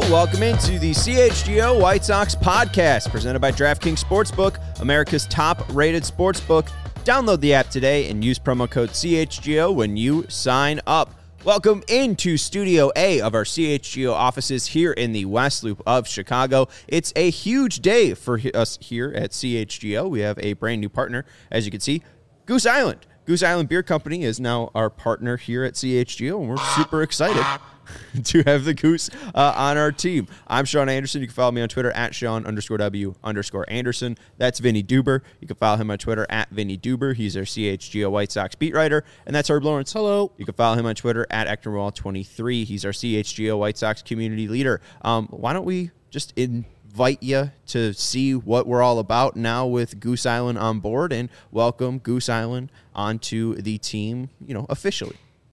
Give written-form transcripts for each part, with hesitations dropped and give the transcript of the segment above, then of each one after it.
Welcome into the CHGO White Sox podcast presented by DraftKings Sportsbook, America's top-rated sportsbook. Download the app today and use promo code CHGO when you sign up. Welcome into Studio A of our CHGO offices here in the West Loop of Chicago. It's a huge day for us here at CHGO. We have a brand new partner, as you can see, Goose Island. Goose Island Beer Company is now our partner here at CHGO, and we're super excited to have the Goose on our team. I'm Sean Anderson. You can follow me on Twitter at Sean_W_Anderson. That's Vinny Duber. You can follow him on Twitter at Vinny Duber. He's our CHGO White Sox beat writer. And that's Herb Lawrence. Hello. You can follow him on Twitter at Ectorwall23. He's our CHGO White Sox community leader. Why don't we just invite you to see what we're all about now with Goose Island on board and welcome Goose Island onto the team, officially.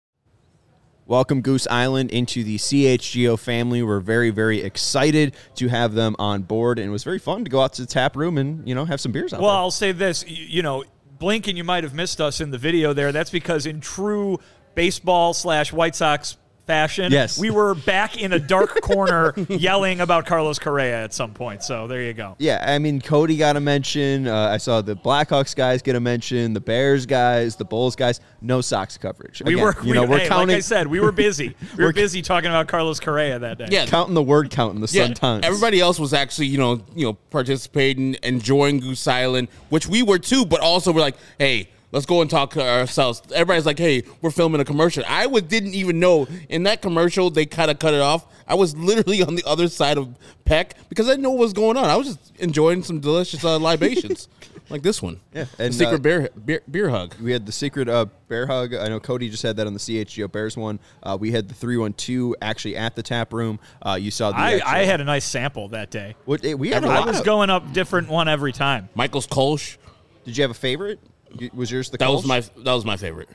Welcome Goose Island into the CHGO family. We're very, very excited to have them on board, and it was very fun to go out to the tap room and, have some beers out there. Well, I'll say this, blink and you might have missed us in the video there. That's because in true baseball/White Sox fashion, yes, we were back in a dark corner yelling about Carlos Correa at some point. So there you go. Yeah, I mean, Cody got a mention. I saw the Blackhawks guys get a mention, the Bears guys, the Bulls guys. No Sox coverage. Again, we're counting. Like I said, we were busy. We were busy talking about Carlos Correa that day. Yeah, counting the word count in the Sun-Times. Everybody else was actually, participating, enjoying Goose Island, which we were too. But also, we're like, hey, let's go and talk to ourselves. Everybody's like, hey, we're filming a commercial. I didn't even know in that commercial they kind of cut it off. I was literally on the other side of Peck because I didn't know what was going on. I was just enjoying some delicious libations like this one. Yeah, and the secret beer hug. We had the secret bear hug. I know Cody just had that on the CHGO Bears one. We had the 312 actually at the tap room. You saw the I had a nice sample that day. I was going up different one every time. Michael's Kolsch. Did you have a favorite? Was yours the that Kolsch? That was my favorite.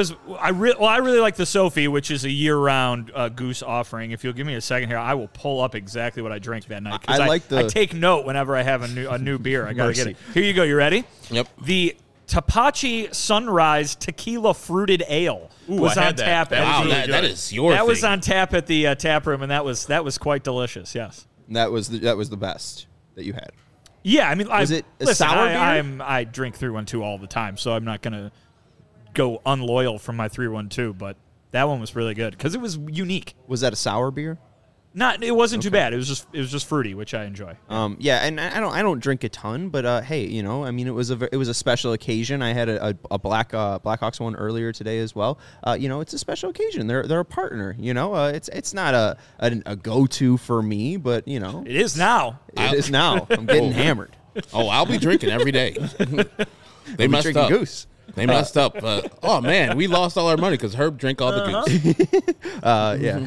I really like the Sophie, which is a year-round Goose offering. If you'll give me a second here, I will pull up exactly what I drank that night. I take note whenever I have a new beer. I gotta get it. Here you go. You ready? Yep. The Tapachi Sunrise Tequila Fruited Ale was on tap. Wow, that is your thing. That was on tap at the tap room, and that was quite delicious. Yes. That was the best that you had. Yeah, I mean, was it a sour beer? I drink 312 all the time, so I'm not going to go unloyal from my 312, but that one was really good because it was unique. Was that a sour beer? It wasn't too bad. It was just fruity, which I enjoy. Yeah, and I don't drink a ton, but hey, I mean, it was a special occasion. I had a Blackhawks one earlier today as well. It's a special occasion. They're a partner. It's not a go-to for me, but it is now. It is now. I'm getting hammered. Oh, I'll be drinking every day. They messed up. Goose. They messed up. Oh, man, we lost all our money because Herb drank all the Goose. Yeah,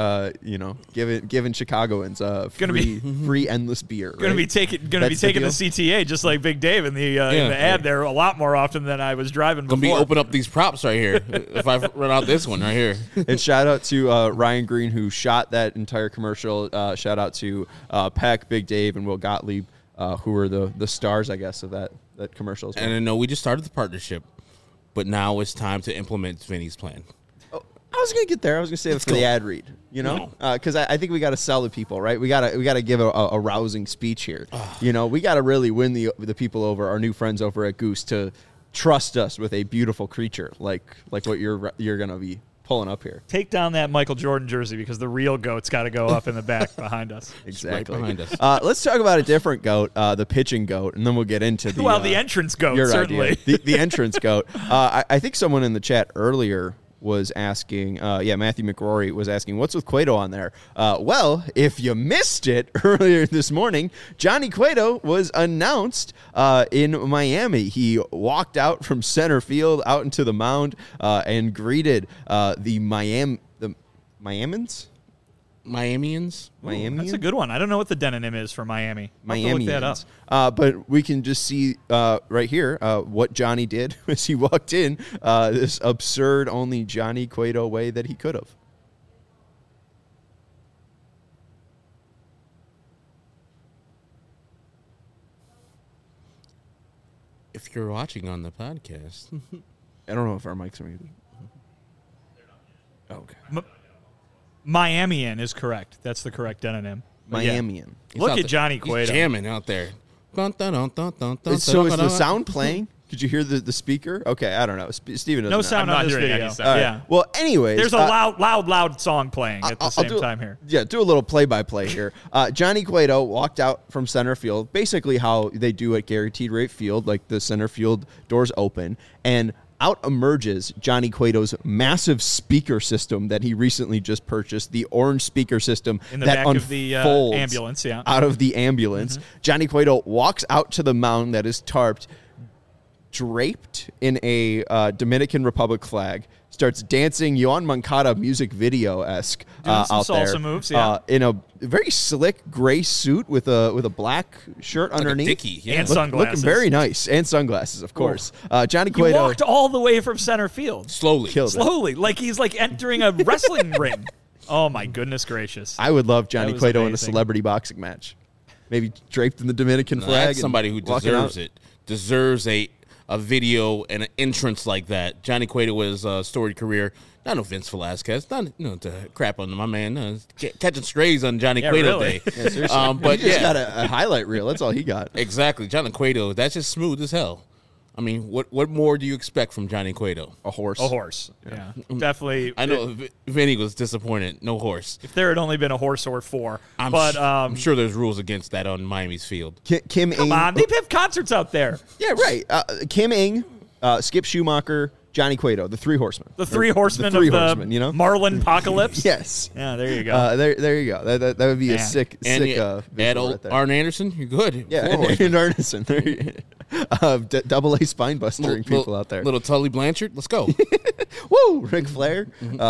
hey, giving Chicagoans free endless beer. Going to be taking the CTA just like Big Dave in the ad there a lot more often than I was driving before. Going to be open up these props right here if I run out this one right here. And shout out to Ryan Green who shot that entire commercial. Shout out to Peck, Big Dave, and Will Gottlieb who were the stars, I guess, of that commercial as well. And I know we just started the partnership. But now it's time to implement Vinny's plan. Oh, I was going to get there. I was going to say it for the ad read, because I think we got to sell to people, right? We got to give a rousing speech here. We got to really win the people over, our new friends over at Goose, to trust us with a beautiful creature like what you're going to be pulling up here. Take down that Michael Jordan jersey because the real goat's got to go up in the back behind us. Exactly. Right behind us. Let's talk about a different goat, the pitching goat, and then we'll get into the entrance goat, certainly. The entrance goat. I think someone in the chat earlier was asking, Matthew McRory was asking, what's with Cueto on there? Well, if you missed it earlier this morning, Johnny Cueto was announced in Miami. He walked out from center field out into the mound and greeted the Miamians? Miamians? That's a good one. I don't know what the demonym is for Miami. I'll have to look that up. But we can just see right here what Johnny did as he walked in, this absurd only Johnny Cueto way that he could have. If you're watching on the podcast. I don't know if our mics are muted. Okay. Miamian is correct. That's the correct demonym. Miamian. Look at Johnny Cueto. He's jamming out there. So is the sound playing? Could you hear the speaker? Okay, I don't know. Steven doesn't know. No sound on this video. Right. Yeah. Well, anyways. There's a loud song playing at the same time here. Yeah, do a little play-by-play here. Johnny Cueto walked out from center field, basically how they do at Guaranteed Rate Field, like the center field doors open, and out emerges Johnny Cueto's massive speaker system that he recently just purchased, the orange speaker system in the that back of the ambulance, out of the ambulance. Mm-hmm. Johnny Cueto walks out to the mound that is tarped, draped in a Dominican Republic flag, starts dancing Yoan Moncada music video-esque out salsa there. Moves, in a very slick gray suit with a black shirt like underneath. A Dickie, yeah. And sunglasses. Looking very nice. And sunglasses, of course. Johnny Cueto. He walked all the way from center field. Slowly. Like he's like entering a wrestling ring. Oh, my goodness gracious. I would love Johnny Cueto in a celebrity boxing match. Maybe draped in the Dominican flag. That's somebody who deserves it. Deserves a video and an entrance like that. Johnny Cueto with his storied career. Not no Vince Velasquez. Not to crap on my man. Catching strays on Johnny Cueto really. Day. Yeah, seriously. But he just got a highlight reel. That's all he got. Exactly. Johnny Cueto. That's just smooth as hell. I mean, what more do you expect from Johnny Cueto? A horse. Yeah. Definitely. I know Vinny was disappointed. No horse. If there had only been a horse or four. I'm sure there's rules against that on Miami's field. Kim Ng. Come on. They have concerts out there. Yeah, right. Kim Ng, Skip Schumacher, Johnny Cueto, the three horsemen. The three horsemen of the you know? Marlin apocalypse? Yes. Yeah, there you go. There you go. That would be a sick visual right there. Arn Anderson, you're good. Yeah, and Anderson. Double A spine bustering people out there. Little Tully Blanchard, let's go. Woo, Ric Flair.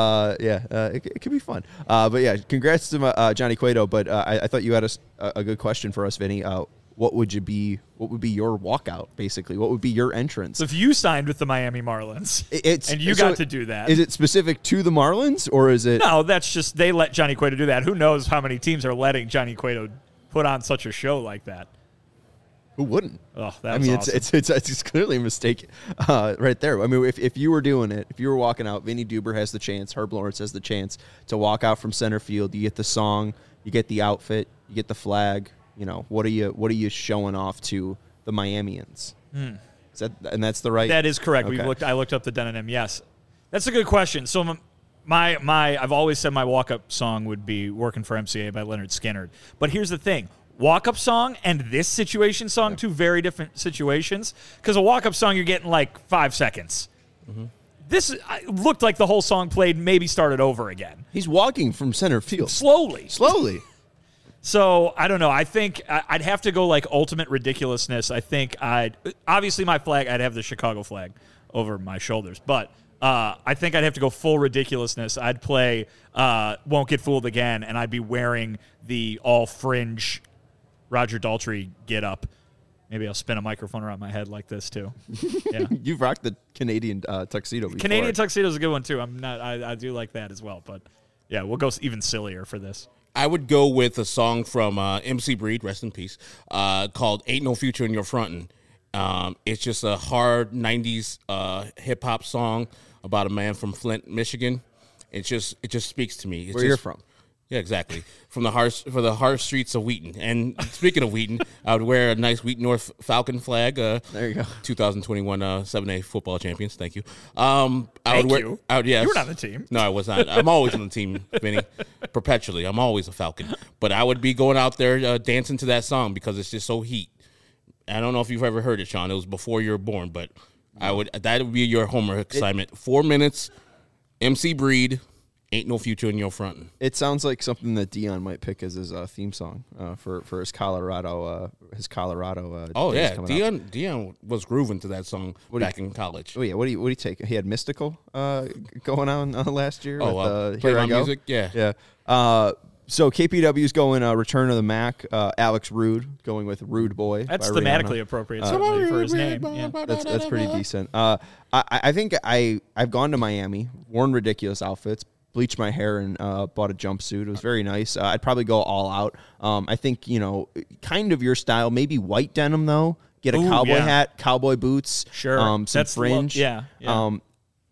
It could be fun. But yeah, congrats to Johnny Cueto. But I thought you had a good question for us, Vinny. What would be your walkout, basically? What would be your entrance? So if you signed with the Miami Marlins and you got to do that. Is it specific to the Marlins or is it? No, that's just they let Johnny Cueto do that. Who knows how many teams are letting Johnny Cueto put on such a show like that? Who wouldn't? Oh, that's awesome. It's clearly a mistake right there. I mean, if you were doing it, if you were walking out, Vinny Duber has the chance, Herb Lawrence has the chance to walk out from center field. You get the song, you get the outfit, you get the flag. You know, what are you showing off to the Miamians? That's the right. That is correct. Okay. I looked up the demonym. Yes, that's a good question. So I've always said my walk-up song would be "Working for MCA" by Leonard Skinner. But here's the thing: walk-up song and this situation song, two very different situations. Because a walk-up song, you're getting like 5 seconds. Mm-hmm. This looked like the whole song played, maybe started over again. He's walking from center field slowly. So, I don't know. I think I'd have to go like ultimate ridiculousness. I think obviously my flag, I'd have the Chicago flag over my shoulders. But I think I'd have to go full ridiculousness. I'd play Won't Get Fooled Again, and I'd be wearing the all-fringe Roger Daltrey get-up. Maybe I'll spin a microphone around my head like this, too. Yeah. You've rocked the Canadian tuxedo before. Canadian tuxedo is a good one, too. I do like that as well. But, yeah, we'll go even sillier for this. I would go with a song from MC Breed, rest in peace, called Ain't No Future in Your Frontin'. It's just a hard 90s hip-hop song about a man from Flint, Michigan. It just speaks to me. Where you're from. Yeah, exactly. For the harsh streets of Wheaton. And speaking of Wheaton, I would wear a nice Wheaton North Falcon flag. There you go. 2021 7A football champions. Thank you. You were not on the team. No, I was not. I'm always on the team, Vinny. Perpetually. I'm always a Falcon. But I would be going out there dancing to that song because it's just so heat. I don't know if you've ever heard it, Sean. It was before you were born, but that would be your homework assignment. 4 minutes, MC Breed. Ain't No Future in Your Frontin'. It sounds like something that Dion might pick as his theme song for his Colorado. Oh yeah, Dion was grooving to that song back in college. Oh yeah, what do you take? He had Mystical going on last year. With, Here I Go. Music, yeah. So KPW's going Return of the Mac. Alex Rude going with Rude Boy. That's thematically appropriate for his name. Yeah. That's pretty decent. I think I've gone to Miami, worn ridiculous outfits, bleached my hair and bought a jumpsuit. It was very nice. I'd probably go all out. I think, kind of your style, maybe white denim though. Get a cowboy hat, cowboy boots, sure. Some fringe. Yeah.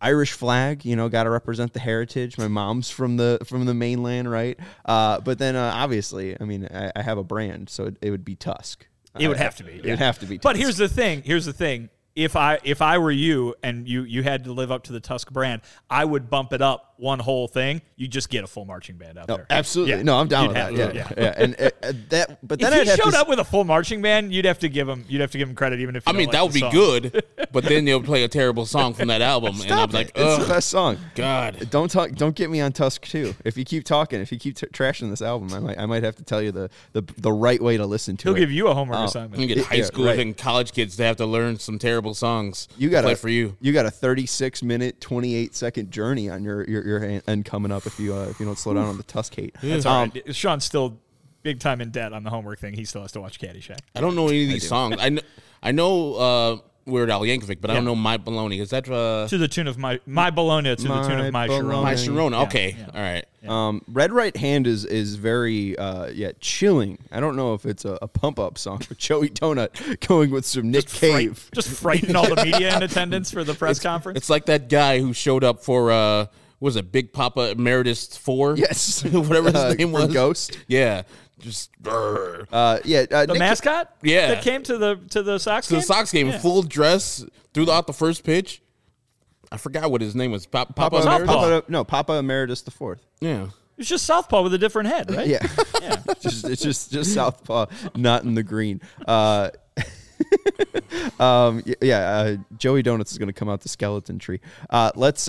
Irish flag, got to represent the heritage. My mom's from the mainland, right? But then obviously, I mean, I have a brand, so it would be Tusk. It would have to be. It would have to be Tusk. But here's the thing. If I were you and you had to live up to the Tusk brand, I would bump it up one whole thing. You just get a full marching band out there. Absolutely. Yeah. No, I'm down with that. Yeah. And that. But then if he showed up with a full marching band, you'd have to give him credit, even if you that would be good. But then they'll play a terrible song from that album, and I'm like, it's the best song. God, don't get me on Tusk too. If you keep talking, if you keep trashing this album, I might have to tell you the right way to listen to it. He'll give you a homework assignment. You get high school and college kids to have to learn some terrible songs. You got play for you. You got a 36-minute, 28-second journey on your end coming up if you don't slow down on the Tusk hate. That's all right. Sean's still big time in debt on the homework thing. He still has to watch Caddyshack. I don't know any of these songs. I know Weird Al Yankovic, but I don't know My Baloney. Is that to the tune of My Bologna to the tune of My Sharona? My Sharona. Okay, all right. Yeah. Red Right Hand is very chilling. I don't know if it's a pump up song, but Joey Donut going with some Nick Cave, just frighten all the media in attendance for the press conference. It's like that guy who showed up for was it Big Papa Emeritus 4? Yes, whatever his name was. Ghost. Yeah. Just the mascot, that came to the Sox game. The Sox game, full dress, threw out the first pitch. I forgot what his name was. Papa Emeritus? Papa Emeritus the Fourth. Yeah, it's just Southpaw with a different head, right? Yeah. It's just Southpaw, not in the green. Joey Donuts is going to come out the skeleton tree. Let's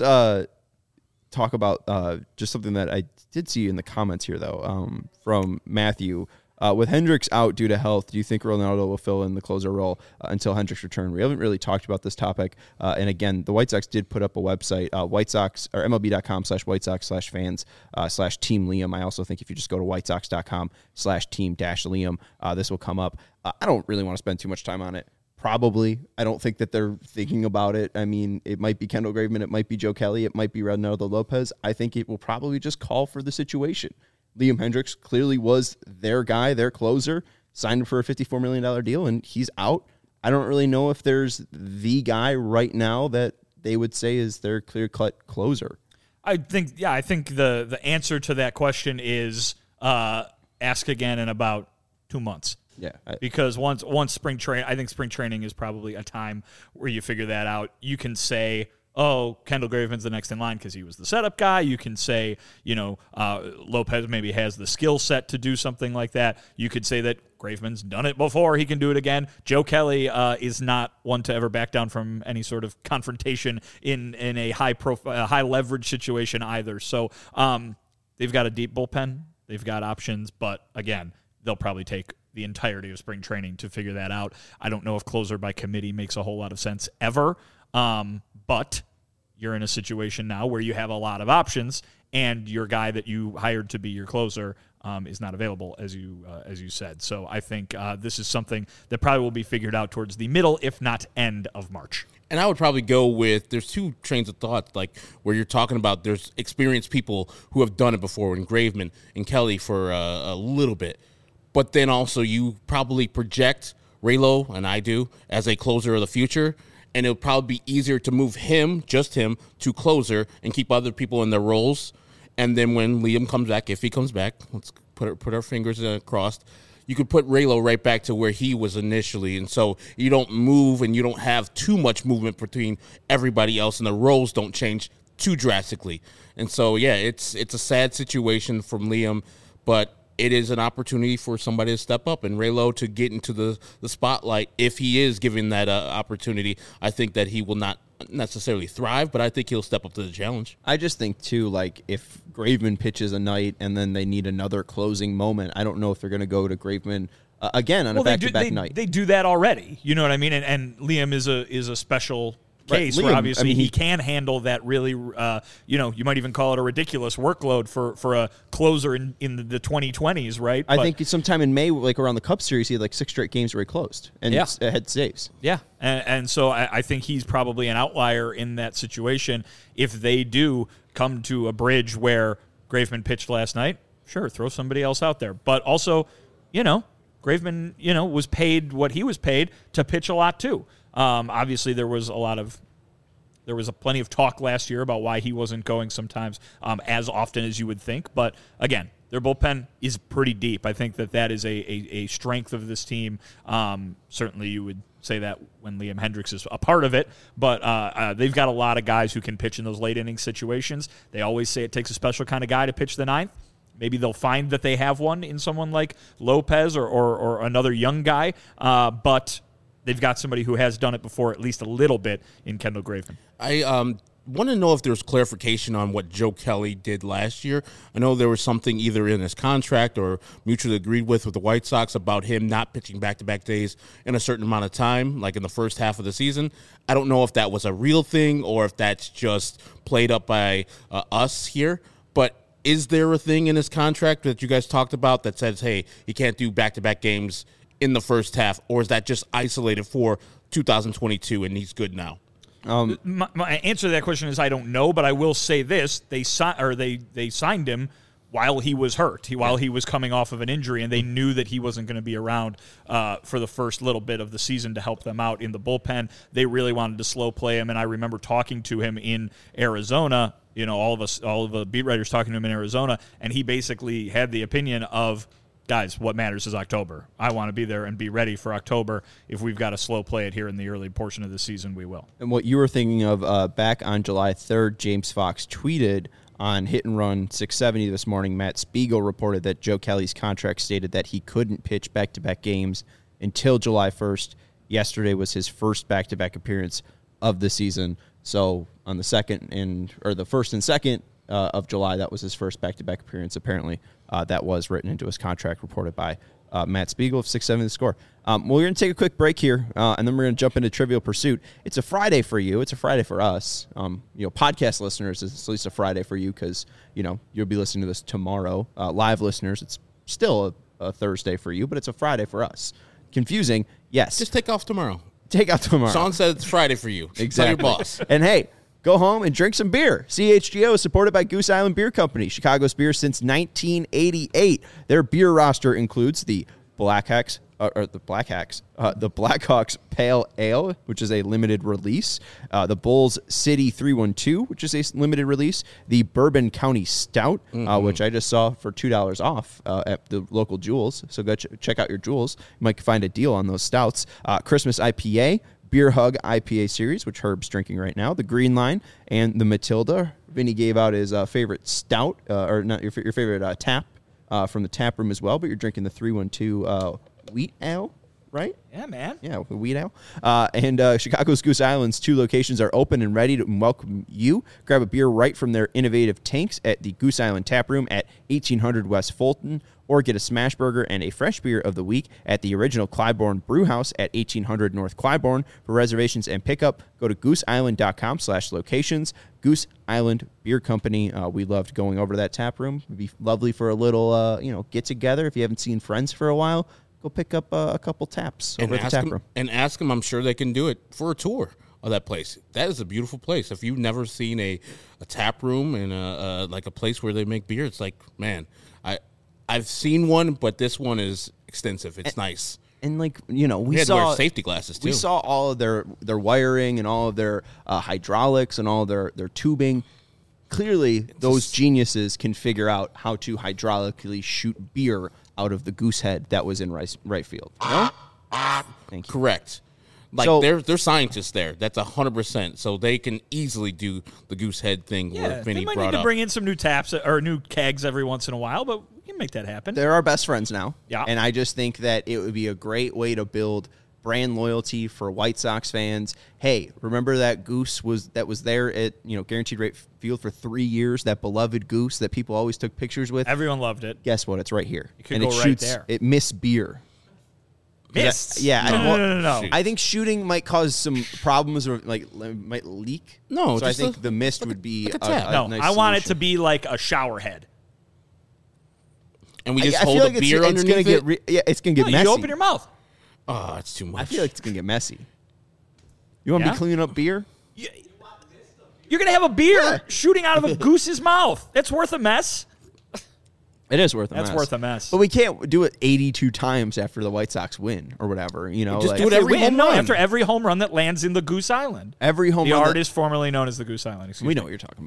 talk about just something that I did see in the comments here, though, from Matthew. With Hendricks out due to health, do you think Ronaldo will fill in the closer role until Hendricks return? We haven't really talked about this topic. And again, the White Sox did put up a website, White Sox or MLB.com/White Sox/fans/Team Liam. I also think if you just go to WhiteSox.com/Team-Liam, this will come up. I don't really want to spend too much time on it. Probably. I don't think that they're thinking about it. I mean, it might be Kendall Graveman. It might be Joe Kelly. It might be Ronaldo Lopez. I think it will probably just call for the situation. Liam Hendricks clearly was their guy, their closer, signed him for a $54 million deal, and he's out. I don't really know if there's the guy right now that they would say is their clear-cut closer. I think the answer to that question is ask again in about 2 months. Yeah, because once spring training, I think spring training is probably a time where you figure that out. You can say, oh, Kendall Graveman's the next in line because he was the setup guy. You can say, Lopez maybe has the skill set to do something like that. You could say that Graveman's done it before. He can do it again. Joe Kelly is not one to ever back down from any sort of confrontation in a high leverage situation either. So they've got a deep bullpen. They've got options. But, again, they'll probably take the entirety of spring training to figure that out. I don't know if closer by committee makes a whole lot of sense ever, but you're in a situation now where you have a lot of options, and your guy that you hired to be your closer is not available, as you said. So I think this is something that probably will be figured out towards the middle, if not end, of March. And I would probably go with, there's two trains of thought, like where you're talking about there's experienced people who have done it before, and Graveman and Kelly for a little bit. But then also you probably project Raylo, and I do, as a closer of the future, and it'll probably be easier to move just him, to closer and keep other people in their roles. And then when Liam comes back, if he comes back, let's put our fingers crossed, you could put Raylo right back to where he was initially. And so you don't move and you don't have too much movement between everybody else, and the roles don't change too drastically. And so, yeah, it's a sad situation from Liam, but it is an opportunity for somebody to step up and Raylo to get into the spotlight. If he is given that opportunity, I think that he will not necessarily thrive, but I think he'll step up to the challenge. I just think, too, like if Graveman pitches a night and then they need another closing moment, I don't know if they're going to go to Graveman again on a back-to-back night. They do that already. You know what I mean? And Liam is a special case where obviously he can handle that really, you might even call it a ridiculous workload for a closer in the 2020s, right? I think sometime in May, like around the Cup Series, he had like 6 straight games where he closed and had saves. Yeah, and so I think he's probably an outlier in that situation. If they do come to a bridge where Graveman pitched last night, sure, throw somebody else out there. But also, Graveman, was paid what he was paid to pitch a lot too. Obviously, there was a lot of There was plenty of talk last year about why he wasn't going sometimes as often as you would think. But, again, their bullpen is pretty deep. I think that is a strength of this team. Certainly you would say that when Liam Hendriks is a part of it, but they've got a lot of guys who can pitch in those late inning situations. They always say it takes a special kind of guy to pitch the ninth. Maybe they'll find that they have one in someone like Lopez or another young guy, but they've got somebody who has done it before at least a little bit in Kendall Graveman. I want to know if there's clarification on what Joe Kelly did last year. I know there was something either in his contract or mutually agreed with the White Sox about him not pitching back-to-back days in a certain amount of time, like in the first half of the season. I don't know if that was a real thing or if that's just played up by us here, but is there a thing in his contract that you guys talked about that says, hey, he can't do back-to-back games in the first half, or is that just isolated for 2022 and he's good now? My answer to that question is I don't know, but I will say this: they signed him while he was hurt, while he was coming off of an injury, and they knew that he wasn't going to be around for the first little bit of the season to help them out in the bullpen. They really wanted to slow play him, and I remember talking to him in Arizona. You know, all of the beat writers talking to him in Arizona, and he basically had the opinion of, guys, what matters is October. I want to be there and be ready for October. If we've got to slow play it here in the early portion of the season, we will. And what you were thinking of back on July 3rd, James Fox tweeted on Hit and Run 670 this morning, Matt Spiegel reported that Joe Kelly's contract stated that he couldn't pitch back-to-back games until July 1st. Yesterday was his first back-to-back appearance of the season. So on the the 1st and 2nd of July, that was his first back-to-back appearance, apparently. That was written into his contract, reported by Matt Spiegel of 670 The Score. Well, we're going to take a quick break here, and then we're going to jump into Trivial Pursuit. It's a Friday for you. It's a Friday for us. Podcast listeners, it's at least a Friday for you because, you'll be listening to this tomorrow. Live listeners, it's still a Thursday for you, but it's a Friday for us. Confusing, yes. Just take off tomorrow. Take out tomorrow. Sean said it's Friday for you. Exactly. Tell your boss. And hey, go home and drink some beer. CHGO is supported by Goose Island Beer Company, Chicago's beer since 1988. Their beer roster includes the Blackhawks Pale Ale, which is a limited release, the Bulls City 312, which is a limited release, the Bourbon County Stout, which I just saw for $2 off at the local Jewels. So go check out your Jewels. You might find a deal on those stouts. Christmas IPA, Beer Hug IPA series, which Herb's drinking right now, the Green Line, and the Matilda. Vinny gave out his favorite stout, or not your favorite tap from the tap room as well, but you're drinking the 312 wheat ale, right? Yeah, man. Yeah, wheat ale. And Chicago's Goose Island's 2 locations are open and ready to welcome you. Grab a beer right from their innovative tanks at the Goose Island Tap Room at 1800 West Fulton, or get a smash burger and a fresh beer of the week at the original Clybourne Brew House at 1800 North Clybourne. For reservations and pickup, go to gooseisland.com/locations. Goose Island Beer Company. We loved going over to that tap room. It'd be lovely for a little, get together. If you haven't seen friends for a while, go pick up a couple taps over at the tap room. And ask them. I'm sure they can do it for a tour of that place. That is a beautiful place. If you've never seen a tap room and like a place where they make beer, it's like, man, I've seen one, but this one is extensive. It's nice. And we had to wear safety glasses too. We saw all of their wiring and all of their hydraulics and all of their tubing. Clearly, those geniuses can figure out how to hydraulically shoot beer out of the goose head that was in right field. No? Thank you. Correct. They're scientists there. That's 100%. So they can easily do the goose head thing. Where Vinny they might brought need up. to bring in some new taps or new kegs every once in a while, but we can make that happen. They're our best friends now. Yeah. And I just think that it would be a great way to build brand loyalty for White Sox fans. Hey, remember that goose that was there at Guaranteed Rate Field for 3 years, that beloved goose that people always took pictures with? Everyone loved it. Guess what? It's right here. It could go right there. It missed beer. Missed? Yeah. No. I think shooting might cause some problems or might leak. No, so I think the mist would be a nice I want it solution. to be like a shower head. And we just hold a beer underneath it? It's going to get messy. You open your mouth. Oh, it's too much. I feel like it's going to get messy. You want to be cleaning up beer? You're going to have a beer shooting out of a goose's mouth. It's worth a mess. It is worth a mess. That's worth a mess. But we can't do it 82 times after the White Sox win or whatever. Just do it every home run. After every home run that lands in the Goose Island. Every home run. The artist formerly known as the Goose Island. We know what you're talking about.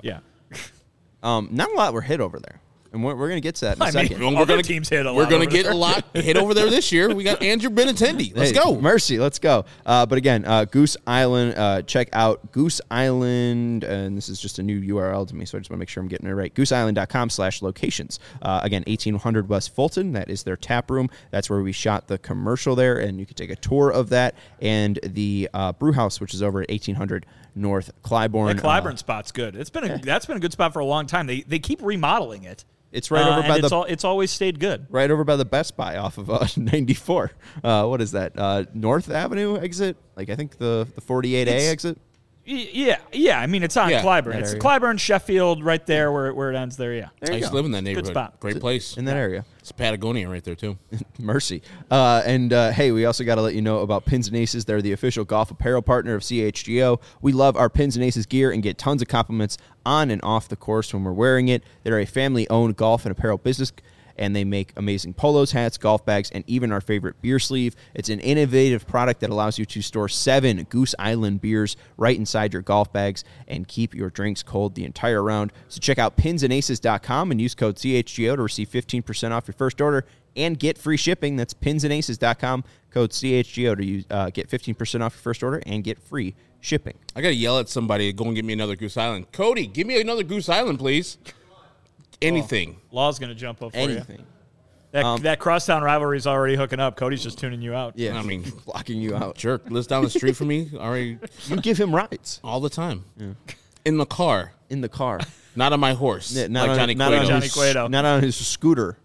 Yeah. Not a lot were hit over there. And we're going to get to that in a second. Other teams hit a lot. We're going to get a lot hit over there this year. We got Andrew Benintendi. Let's go. Mercy, let's go. But again, Goose Island, check out Goose Island. And this is just a new URL to me, so I just want to make sure I'm getting it right. gooseisland.com/locations. Again, 1800 West Fulton. That is their tap room. That's where we shot the commercial there. And you can take a tour of that. And the brew house, which is over at 1800 North Clybourne. That Clybourne spot's good. That's been a good spot for a long time. They keep remodeling it. It's right over by it's always stayed good. Right over by the Best Buy off of 94. What is that? North Avenue exit? Like I think the 48A exit. Yeah. I mean, it's on Clybourne. It's Clybourne, Sheffield, right there where it ends there. Yeah. I used to live in that neighborhood. Good spot. Great place in that area. It's Patagonia right there too. Mercy. Hey, we also got to let you know about Pins and Aces. They're the official golf apparel partner of CHGO. We love our Pins and Aces gear and get tons of compliments on and off the course when we're wearing it. They're a family-owned golf and apparel business, and they make amazing polos, hats, golf bags, and even our favorite beer sleeve. It's an innovative product that allows you to store 7 Goose Island beers right inside your golf bags and keep your drinks cold the entire round. So check out pinsandaces.com and use code CHGO to receive 15% off your first order and get free shipping. That's pinsandaces.com, code CHGO to get 15% off your first order and get free shipping. I got to yell at somebody, go and get me another Goose Island. Cody, give me another Goose Island, please. Anything. Law's going to jump up for anything. You. That crosstown rivalry is already hooking up. Cody's just tuning you out. Yeah, I mean, blocking you out. Jerk lives down the street from me. Already, you give him rides all the time. Yeah. In the car. Not on my horse. Yeah, not like on, Johnny Cueto. Not on his scooter.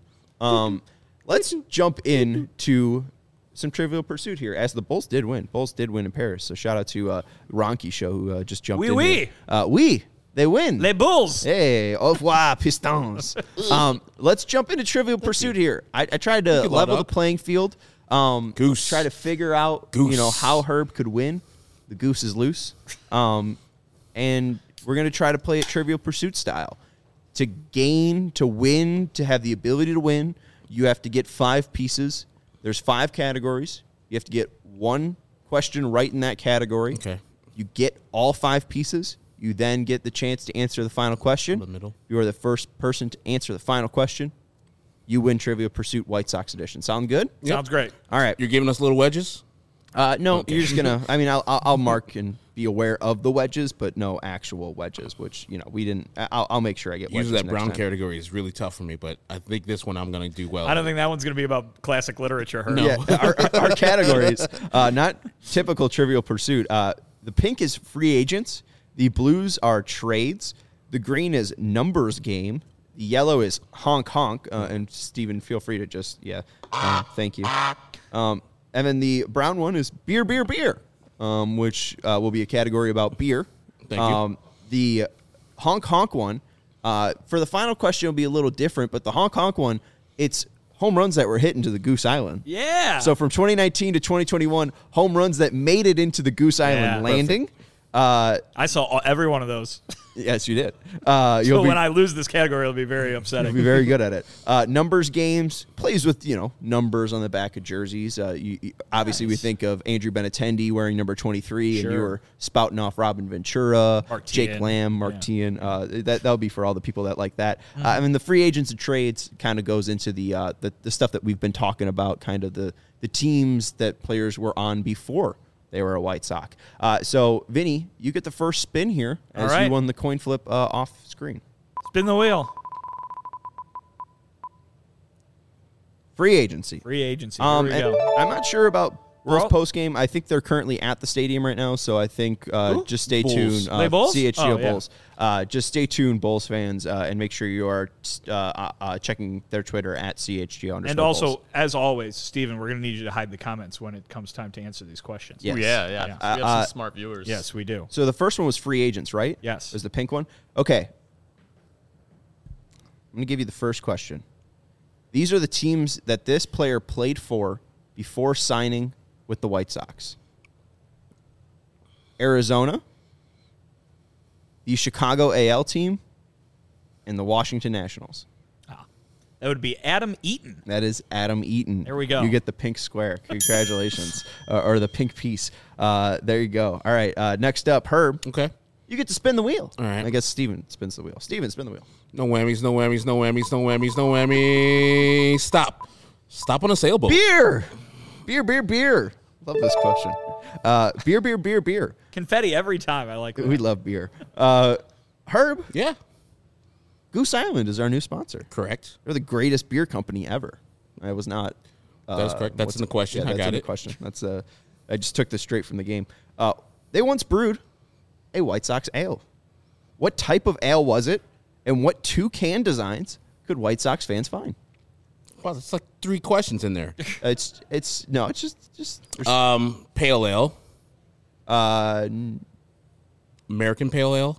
Let's jump into some Trivial Pursuit here, as the Bulls did win. Bulls did win in Paris. So shout out to Ronky Show who just jumped in. Oui. They win. Les Bulls. Hey, au revoir, Pistons. Let's jump into Trivial Pursuit here. I tried to level the playing field. Goose. Try to figure out, how Herb could win. The goose is loose. And we're going to try to play it Trivial Pursuit style. To win, to have the ability to win, you have to get 5 pieces. There's 5 categories. You have to get 1 question right in that category. Okay. You get all 5 pieces. You then get the chance to answer the final question. In the middle. You are the first person to answer the final question. You win Trivial Pursuit White Sox edition. Sound good? Yep. Sounds great. All right. You're giving us little wedges? No, okay. You're just going to, I'll mark and be aware of the wedges, but no actual wedges, which, we didn't, I'll make sure I get wedges. Usually that brown category is really tough for me, but I think this one I'm going to do well. I don't think that one's going to be about classic literature. No. Yeah, our categories, not typical Trivial Pursuit. The pink is free agents. The blues are trades. The green is numbers game. The yellow is honk honk. And Steven, feel free to just, thank you. And then the brown one is beer, which will be a category about beer. Thank you. The honk honk one, for the final question, will be a little different, but the honk honk one, it's home runs that were hit into the Goose Island. Yeah. So from 2019 to 2021, home runs that made it into the Goose Island landing. Perfect. I saw every one of those. Yes, you did. So when I lose this category, it'll be very upsetting. You'll be very good at it. Numbers games, plays with, numbers on the back of jerseys. Obviously, we think of Andrew Benintendi wearing number 23, and you were spouting off Robin Ventura, Jake Lamb, Mark Teahan. That'll be for all the people that like that. The free agents and trades kind of goes into the stuff that we've been talking about, kind of the teams that players were on before they were a White Sox. So, Vinny, you get the first spin here as you won the coin flip off screen. Spin the wheel. Free agency. Here we go. I'm not sure about Bulls post game. I think they're currently at the stadium right now, so I think just stay tuned. Bulls? CHGO Bulls. Just stay tuned, Bulls fans, and make sure you are checking their Twitter at CHGO_Bulls. And also, as always, Steven, we're going to need you to hide the comments when it comes time to answer these questions. Yes. Ooh, yeah. We have some smart viewers. Yes, we do. So the first one was free agents, right? Yes. It was the pink one? Okay. I'm going to give you the first question. These are the teams that this player played for before signing with the White Sox: Arizona, the Chicago AL team, and the Washington Nationals. That would be Adam Eaton. That is Adam Eaton. There we go. You get the pink square. Congratulations. Or the pink piece. There you go. All right. Next up, Herb. Okay. You get to spin the wheel. All right. I guess Steven spins the wheel. Steven, spin the wheel. No whammies, no whammies, no whammies, no whammies, no whammies. Stop. Stop on a sailboat. Beer. Beer. Love this question. Beer. Confetti every time. I like that. We love beer. Herb. Yeah. Goose Island is our new sponsor. Correct. They're the greatest beer company ever. I was not. That's correct. That's in the question. Yeah, I got in it. The question. That's I just took this straight from the game. They once brewed a White Sox ale. What type of ale was it, and what 2 can designs could White Sox fans find? Wow, that's like 3 questions in there. It's just Pale ale. American Pale Ale.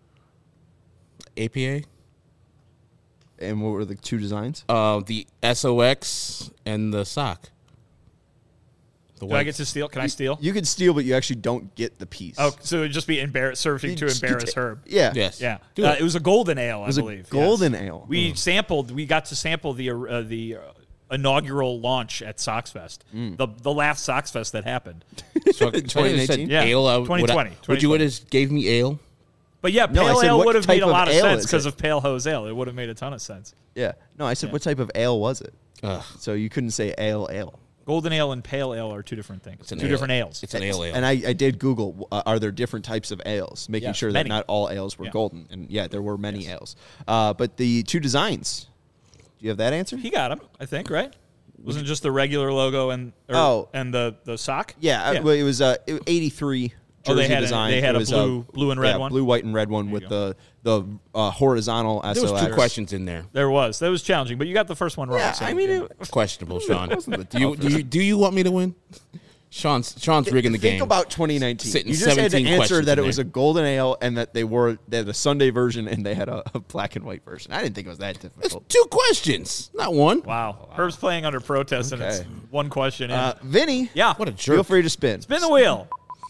APA. And what were the 2 designs? The SOX and the sock. Do I get to steal? Can I steal? You can steal, but you actually don't get the piece. Oh, so it would just be surfing to embarrass Herb. Yeah. Yes. Yeah. It was a golden ale, I believe. Golden ale. We got to sample the inaugural launch at Soxfest, the last Soxfest that happened. So 2018? Yeah. Ale, 2020. Would you would have gave me ale? But yeah, No, I pale said ale what would have type made a of lot of ale sense is because it? of Pale Hose Ale. It would have made a ton of sense. Yeah. No, I said what type of ale was it? So you couldn't say ale. Golden ale and pale ale are 2 different things. Two different ales. It's an ale. And I did Google, are there different types of ales, making Yes, sure that many. not all ales were golden. And yeah, there were many ales. But the 2 designs, do you have that answer? He got them, I think, right? Wasn't it just the regular logo and the sock? Yeah. Well, it was 83 jersey design. They had it was a blue and red one? Blue, white, and red one with the horizontal SOX. There was 2 questions in there. There was. That was challenging, but you got the first one wrong. Yeah, so I mean, it Questionable, Sean. wasn't the Do you want me to win? Sean's rigging the game. Think about 2019. Sitting You just had to 17 answer questions that in it was there. a golden ale and that they had a Sunday version and they had a black and white version. I didn't think it was that It's difficult. 2 questions, not 1. Wow. Herb's playing under protest, and it's Okay. 1 question in. Vinny, Yeah. What a jerk. feel free to spin. Spin the wheel.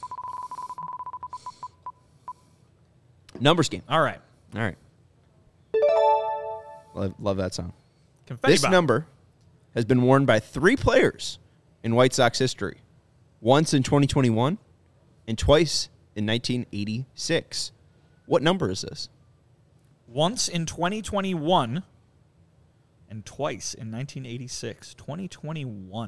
Numbers game. All right. All right. Love that song. Confetti This bomb. number has been worn by 3 players in White Sox history. Once in 2021 and twice in 1986. What number is this? Once in 2021 and twice in 1986. 2021.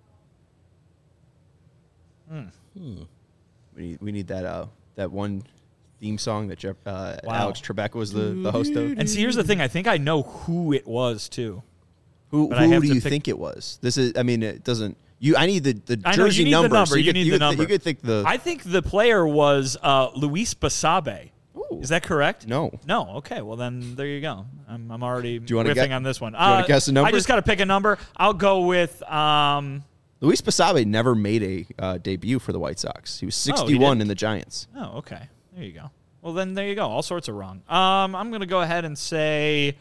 We need that one theme song that Alex Trebek was the host of. And see, here's the thing. I think I know who it was, too. Who But I have do to you pick- think it was? This is. I mean, it doesn't. I need the I know, jersey you need number. the number. So You need the number. You could think the. I think the player was Luis Basabe. Ooh. Is that correct? No. No. Okay. Well, then there you go. I'm already you wanna riffing get- on this one. do you wanna guess a number? I just got to pick a number. I'll go with. Luis Basabe never made a debut for the White Sox. He was he 61 didn't? in the Giants. Oh, okay. There you go. Well, then there you go. All sorts of wrong. I'm going to go ahead and say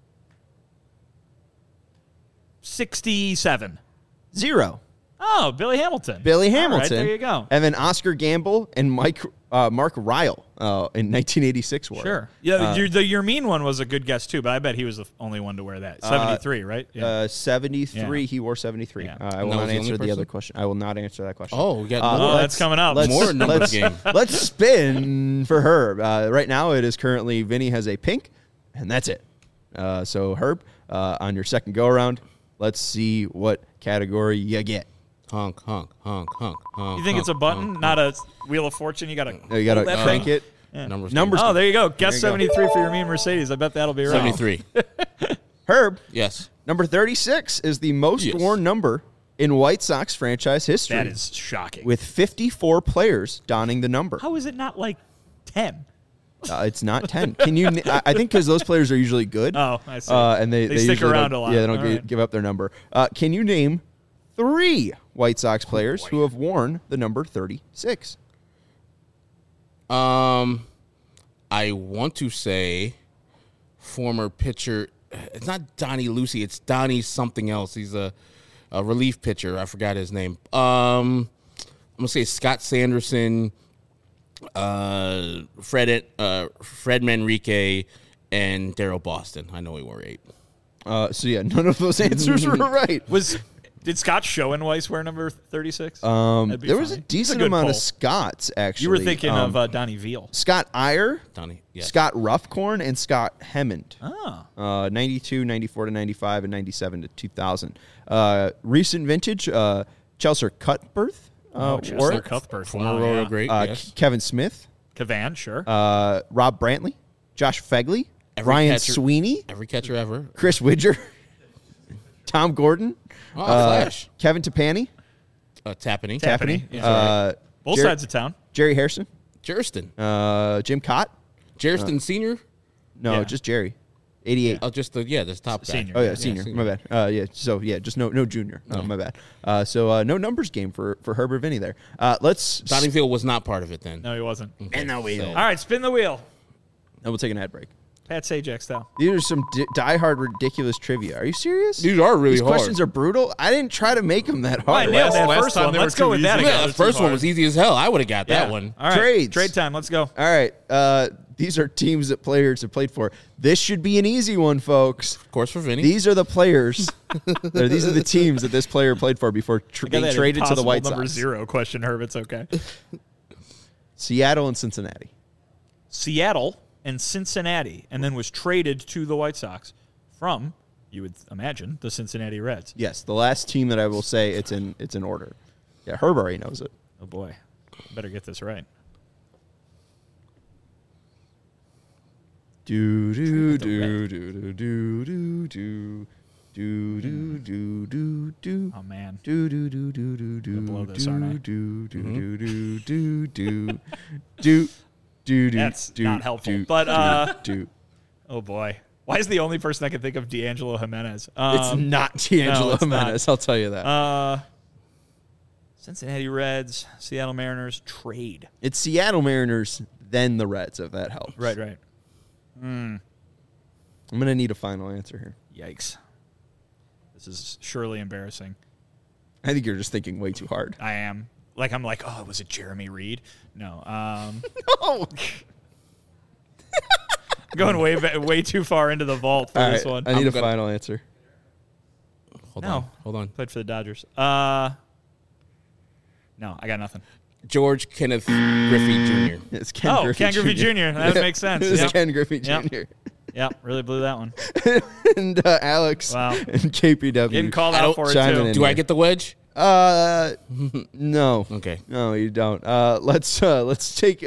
67. 0. Oh, Billy Hamilton. Billy All Hamilton. right, there you go. And then Oscar Gamble and Mark Ryle in 1986 wore. Sure. Yeah, your mean one was a good guess, too, but I bet he was the only one to wear that. 73, right? Yeah. 73. Yeah. He wore 73. Yeah. I will that not was the answer only the other person? question. I will not answer that question. Oh, we got more. that's coming up. More numbers game. Let's spin for Herb. Right now, it is currently Vinny has a pink, and that's it. So, Herb, on your second go-around, let's see what category you get. Honk, honk, honk, honk, honk. You think it's a button, not a Wheel of Fortune? You got to You got to crank it. Numbers. Numbers. Oh, there you go. Guess There you go. 73 for your mean Mercedes. I bet that'll be right. 73. Herb, Yes. number 36 is the most Yes. worn number in White Sox franchise history. That is shocking. with 54 players donning the number. How is it not like 10? It's not 10. Can you? I think because those players are usually good. Oh, I see. And they They stick usually around don't- a lot. Yeah, they don't All right. give up their number. Can you name 3 White Sox players who have worn the number 36? I want to say former pitcher. It's not Donnie Lucy. It's Donnie something else. He's a relief pitcher. I forgot his name. I'm gonna say Scott Sanderson, Fred Manrique, and Daryl Boston. I know he wore 8. None of those answers were right. Did Scott Schoenweiss wear number 36? There was a decent amount of Scotts, actually. You were thinking of Donnie Veal. Scott Iyer, yes. Scott Ruffcorn, and Scott Hemmond. 92, 94 to 95, and 97 to 2000. Recent vintage, Chelsea Cuthbert. Chelsea Cuthbert. Former Royal great, yes. Kevin Smith. Cavan, sure. Rob Brantley. Josh Fegley. Ryan Sweeney. Every catcher ever. Chris Widger. Tom Gordon. Flash. Kevin Tapani. Tapani. Yeah. Both sides of town. Jerry Harrison. Jerston. Jim Cott. Jerston Senior? No, just Jerry. 88. Oh, just the top guy. Senior. Oh, yeah, senior. My bad. Just no junior. My bad. No numbers game for Herbert Vinny there. Donnie Veal was not part of it then. No, he wasn't. Okay. And the wheel. All right, spin the wheel. And we'll take an ad break. Pat Sajak style. These are some diehard ridiculous trivia. Are you serious? These are really hard. These questions are brutal. I didn't try to make them that hard. I nailed that first one. Let's go with that again. The first one was easy as hell. I would have got that one. All right. Trades. Trade time. Let's go. All right. These are teams that players have played for. This should be an easy one, folks. Of course, for Vinny. These are the players. These are the teams that this player played for before being traded to the White Sox. Number 0 question, Herb. It's okay. Seattle and Cincinnati. Seattle and Cincinnati, and then was traded to the White Sox from, you would imagine, the Cincinnati Reds. Yes, the last team that I will say it's in order. Yeah, Herb already knows it. Oh boy, better get this right. Do do do do do do do do do do do. Oh man. Do do do do do do. Blow this, aren't I? Do do do do do do do. That's not helpful. But oh boy, why is the only person I can think of D'Angelo Jimenez? It's not D'Angelo Jimenez. I'll tell you that. Cincinnati Reds, Seattle Mariners trade. It's Seattle Mariners, then the Reds. If that helps. Right. I'm gonna need a final answer here. Yikes! This is surely embarrassing. I think you're just thinking way too hard. I am. I'm like, oh, was it Jeremy Reed? No. No. Going way too far into the vault for this one. I need a final answer. Hold on. Played for the Dodgers. No, I got nothing. George Kenneth Griffey Jr. It's Ken Griffey Jr. That makes sense. It's Ken Griffey Jr. Yep, really blew that one. And Alex and KPW. Getting called out for it, too. Do I get the wedge? No. Okay. No, you don't. Let's do one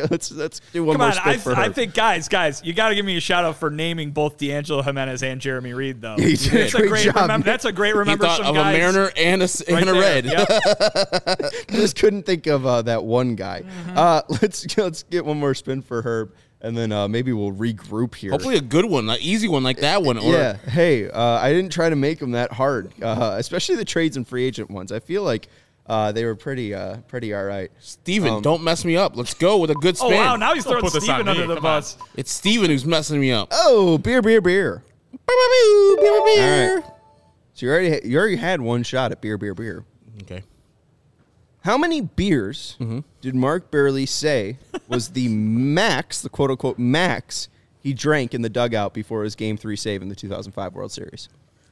more spin for her. I think guys, you got to give me a shout out for naming both D'Angelo Jimenez and Jeremy Reed, though. He did. That's a great remember. He thought of a Mariner and a Red. Yep. Just couldn't think of that one guy. Mm-hmm. Let's get one more spin for Herb. And then maybe we'll regroup here. Hopefully a good one, an easy one like that one. Yeah. Hey, I didn't try to make them that hard, especially the trades and free agent ones. I feel like they were pretty all right. Steven, don't mess me up. Let's go with a good spin. Oh, wow. Now he's throwing Steven under the bus. It's Steven who's messing me up. Oh, beer. Beer. All right. So you already had one shot at beer. Okay. How many beers did Mark Burley say was the max, the quote-unquote max, he drank in the dugout before his Game 3 save in the 2005 World Series?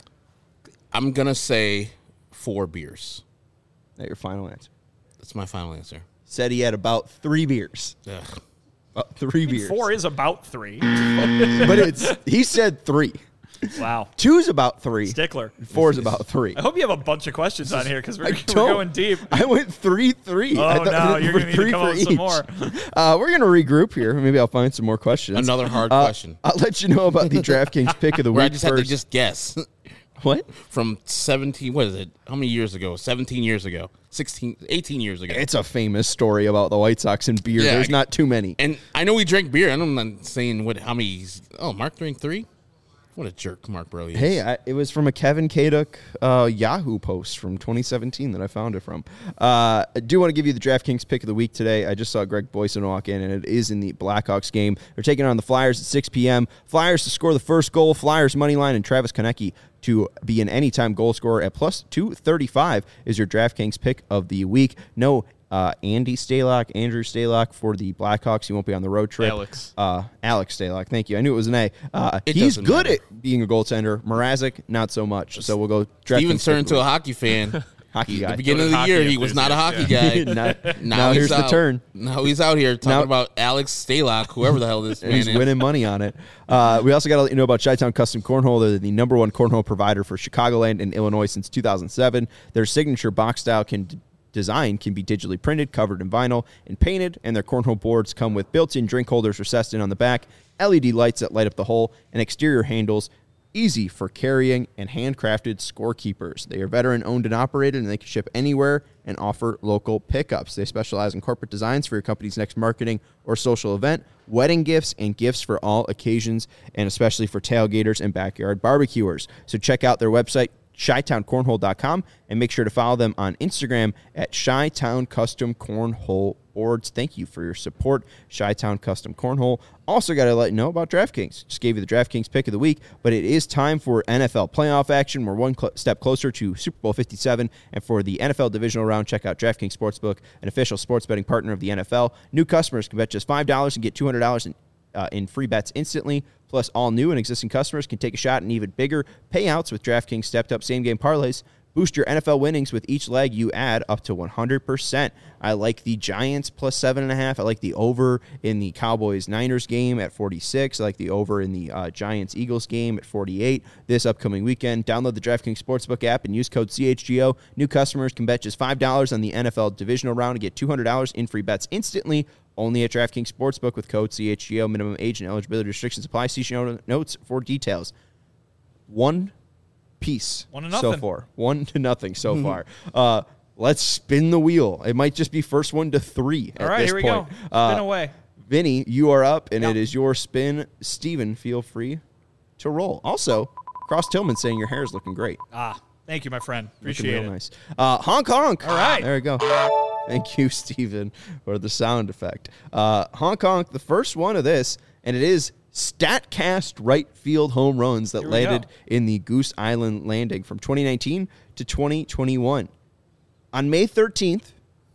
I'm going to say 4 beers. Is that your final answer? That's my final answer. Said he had about 3 beers. Ugh. About 3 beers. 4 is about 3. But he said 3. Wow. 2 is about 3. Stickler. 4 is about 3. I hope you have a bunch of questions on here because we're going deep. I went 3-3. Oh, no. You're going to need to come up with some more. We're going to regroup here. Maybe I'll find some more questions. Another hard question. I'll let you know about the DraftKings pick of the week I just first. had to just guess. What? From 17, what is it? How many years ago? 17 years ago. 16, 18 years ago. It's a famous story about the White Sox and beer. Yeah, There's not too many. And I know he drank beer. I'm not saying how many. Mark drank 3? What a jerk Mark Burley is. Hey, it was from a Kevin Kaduk Yahoo post from 2017 that I found it from. I do want to give you the DraftKings pick of the week today. I just saw Greg Boyson walk in, and it is in the Blackhawks game. They're taking on the Flyers at 6 p.m. Flyers to score the first goal. Flyers money line and Travis Konecny to be an anytime goal scorer at plus 235 is your DraftKings pick of the week. No Andrew Stalock for the Blackhawks. He won't be on the road trip. Alex Stalock. Thank you. I knew it was an A. He's good at being a goaltender. Mrazek, not so much. So we'll go. Steven turned into a hockey fan. Hockey guy. At the beginning of the year, he was not a hockey guy. now here's the turn. Now he's out here talking about Alex Stalock, whoever the hell this man is. He's winning money on it. We also got to let you know about Chi-Town Custom Cornhole. They're the #1 cornhole provider for Chicagoland and Illinois since 2007. Their signature box style design can be digitally printed, covered in vinyl, and painted, and their cornhole boards come with built-in drink holders recessed in on the back, LED lights that light up the hole, and exterior handles easy for carrying, and handcrafted scorekeepers. They are veteran-owned and operated, and they can ship anywhere and offer local pickups. They specialize in corporate designs for your company's next marketing or social event, wedding gifts, and gifts for all occasions, and especially for tailgaters and backyard barbecuers. So check out their website, ChiTownCornhole.com, and make sure to follow them on Instagram at Chi-Town Custom Cornhole Boards. Thank you for your support, Chi-Town Custom Cornhole. Also got to let you know about DraftKings. Just gave you the DraftKings pick of the week, but it is time for NFL playoff action. We're one step closer to Super Bowl 57, and for the NFL divisional round, check out DraftKings Sportsbook, an official sports betting partner of the NFL. New customers can bet just $5 and get $200 in free bets instantly. Plus, all new and existing customers can take a shot at even bigger payouts with DraftKings stepped-up same-game parlays. Boost your NFL winnings with each leg you add up to 100%. I like the Giants plus 7.5. I like the over in the Cowboys-Niners game at 46. I like the over in the Giants-Eagles game at 48 this upcoming weekend. Download the DraftKings Sportsbook app and use code CHGO. New customers can bet just $5 on the NFL divisional round and get $200 in free bets instantly. Only at DraftKings Sportsbook with code CHGO. Minimum age and eligibility restrictions apply. See show notes for details. One piece so far. 1-0 so far. Let's spin the wheel. It might just be first 1 to 3 at this point. All right, here we go. Spin away. Vinny, you are up, and it is your spin. Steven, feel free to roll. Also, Cross Tillman saying your hair is looking great. Thank you, my friend. Appreciate it. Nice. Honk, honk. All right. There we go. Thank you, Steven, for the sound effect. Honk, honk, the first one of this, and it is StatCast right field home runs that landed in the Goose Island Landing from 2019 to 2021. On May 13th,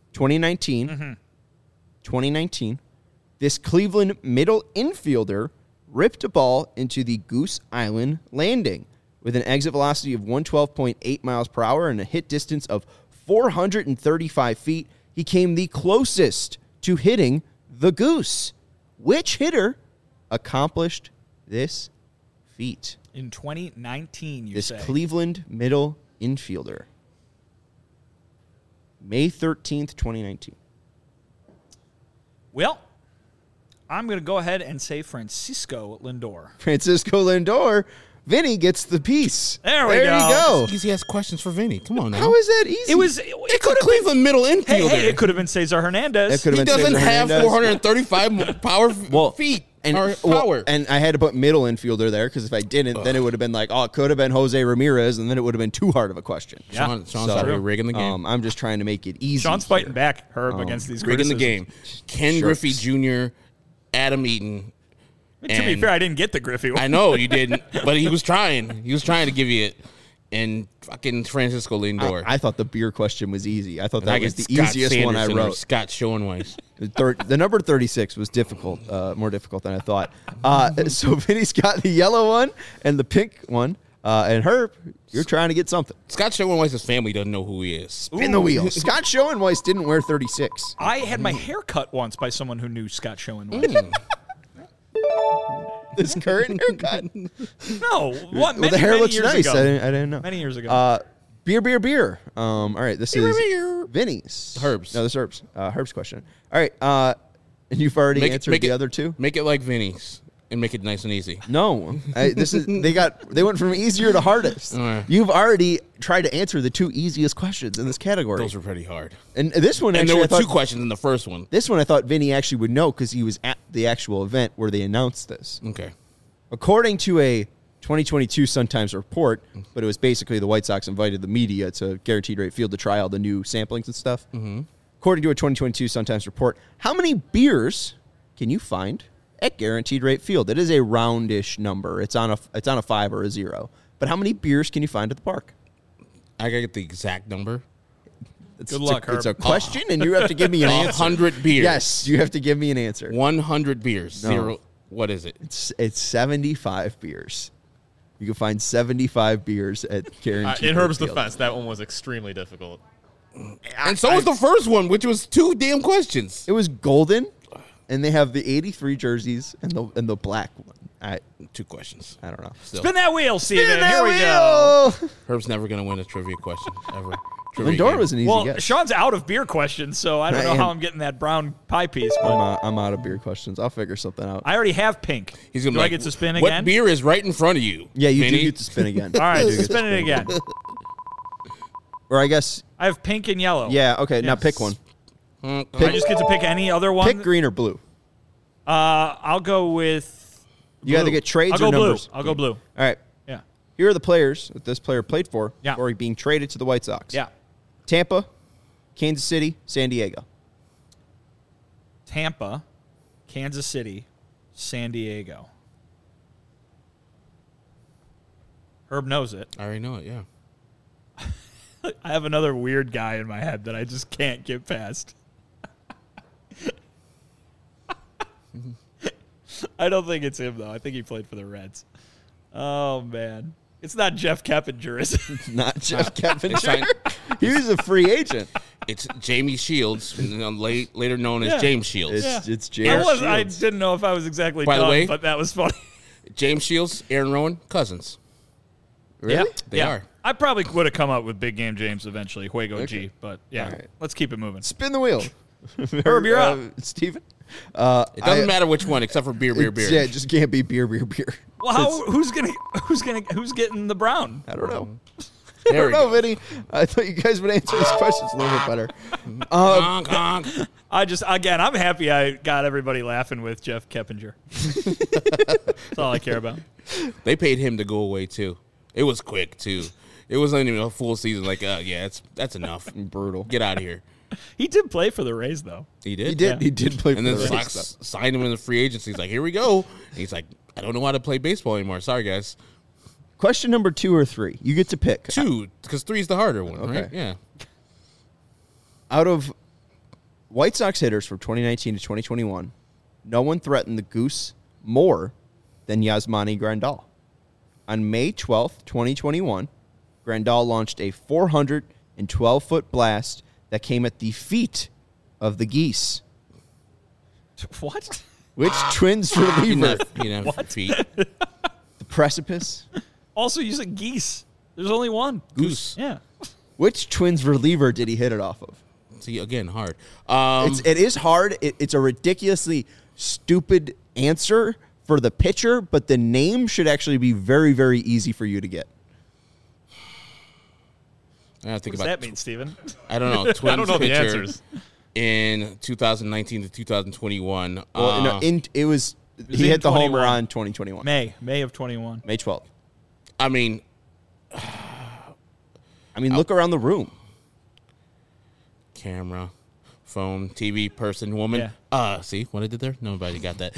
2019, this Cleveland middle infielder ripped a ball into the Goose Island Landing with an exit velocity of 112.8 miles per hour and a hit distance of 435 feet. He came the closest to hitting the Goose. Which hitter accomplished this feat? In 2019, you say? This Cleveland middle infielder. May 13th, 2019. Well, I'm going to go ahead and say Francisco Lindor. Francisco Lindor. Vinny gets the piece. There you go. Easy ass questions for Vinny. Come on now. How is that easy? It could have Cleveland middle infielder. Hey, it could have been Cesar Hernandez. He doesn't have 435 feet. And I had to put middle infielder there because if I didn't, then it would have been like, it could have been Jose Ramirez, and then it would have been too hard of a question. Yeah. Sean's out here rigging the game. I'm just trying to make it easy. Sean's fighting back, Herb, against these rigging criticisms. the game. Ken Griffey Jr., Adam Eaton. To be fair, I didn't get the Griffey one. I know you didn't, but he was trying. He was trying to give you it. And fucking Francisco Lindor. I thought the beer question was easy. I thought that was the easiest one I wrote. Scott Schoenweiss. The number 36 was difficult, more difficult than I thought. So Vinny's got the yellow one and the pink one. And Herb, you're trying to get something. Scott Schoenweiss's family doesn't know who he is. Spin the wheel. Scott Schoenweiss didn't wear 36. I had my hair cut once by someone who knew Scott Schoenweiss. This current haircut? No. The hair looks nice. I didn't know. Many years ago. Beer. All right, this is Vinny's. Herb's. No, this is Herb's. Herb's question. All right, and you've already answered the other two? Make it like Vinny's and make it nice and easy. No. They went from easier to hardest. You've already tried to answer the two easiest questions in this category. Those were pretty hard. And this one, there were two questions in the first one. This one I thought Vinny actually would know because he was at the actual event where they announced this. Okay. According to a 2022 Sun-Times report, but it was basically the White Sox invited the media to Guaranteed Rate Field to try all the new samplings and stuff. Mm-hmm. According to a 2022 Sun-Times report, how many beers can you find at Guaranteed Rate Field? It is a roundish number. It's on a 5 or a 0. But how many beers can you find at the park? I gotta get the exact number. Good luck, Herb. It's a question, and you have to give me an answer. 100 beers. Yes, you have to give me an answer. 100 beers. No. 0. What is it? It's 75 beers. You can find 75 beers at Guaranteed. In Herb's defense, that one was extremely difficult. And so was the first one, which was 2 damn questions. It was golden, and they have the 83 jerseys and the black one. 2 questions. I don't know. Still. Spin that wheel, Steven. Spin that Here we wheel! go. Herb's never going to win a trivia question, ever. Lindor was an easy guess. Sean's out of beer questions, so I don't know how I'm getting that brown pie piece. But I'm out of beer questions. I'll figure something out. I already have pink. He's gonna do I get to spin again? What beer is right in front of you? Yeah, you Vinny? do get to spin again. All right, spin it again. Or I guess. I have pink and yellow. Yeah, okay, now pick one. I just get to pick any other one? Pick green or blue. I'll go with blue. You either get trades or numbers. I'll go blue. All right. Yeah. Here are the players that this player played for Yeah. before being traded to the White Sox. Yeah. Tampa, Kansas City, San Diego. Tampa, Kansas City, San Diego. Herb knows it. I already know it, yeah. I have another weird guy in my head that I just can't get past. I don't think it's him, though. I think he played for the Reds. Oh, man. It's not Jeff Keppinger, is it? Not Jeff Keppinger. He was a free agent. It's Jamie Shields, later known as James Shields. It's James Shields. I didn't know if I was exactly By the way, but that was funny. James Shields, Aaron Rowan, cousins. Really? Yeah. They are. I probably would have come up with Big Game James eventually, Juego G, but yeah, right. Let's keep it moving. Spin the wheel. Herb, you're up. Steven? It doesn't matter which one, except for beer. Yeah, it just can't be beer. Well, who's getting the brown? I don't know. There I don't we know, go. Vinny. I thought you guys would answer these questions a little bit better. Honk, honk. I'm happy I got everybody laughing with Jeff Keppinger. That's all I care about. They paid him to go away, too. It was quick, too. It wasn't even a full season. Like, that's enough. Brutal. Get out of here. He did play for the Rays, though. He did? He did. Yeah. He did play for And then the the Rays. Sox signed him in the free agency. He's like, here we go. And he's like, I don't know how to play baseball anymore. Sorry, guys. Question number 2 or 3. You get to pick. 2, because 3 is the harder one, Okay. right? Yeah. Out of White Sox hitters from 2019 to 2021, no one threatened the Goose more than Yasmani Grandal. On May 12th, 2021, Grandal launched a 412-foot blast that came at the feet of the Geese. What? Which Twins reliever? He didn't have feet. The precipice? Also, you said geese. There's only one. Goose. Yeah. Which Twins reliever did he hit it off of? See, again, hard. It is hard. It's a ridiculously stupid answer for the pitcher, but the name should actually be very, very easy for you to get. I gotta think What does about that mean, Steven? I don't know. Twins I don't know the pitcher answers. in 2019 to 2021. Well, no, it was he in hit the homer 21. on 2021. May of 21. May 12th. I mean, Look around the room. camera, phone, TV, person, woman. Yeah. See what I did there? Nobody got that.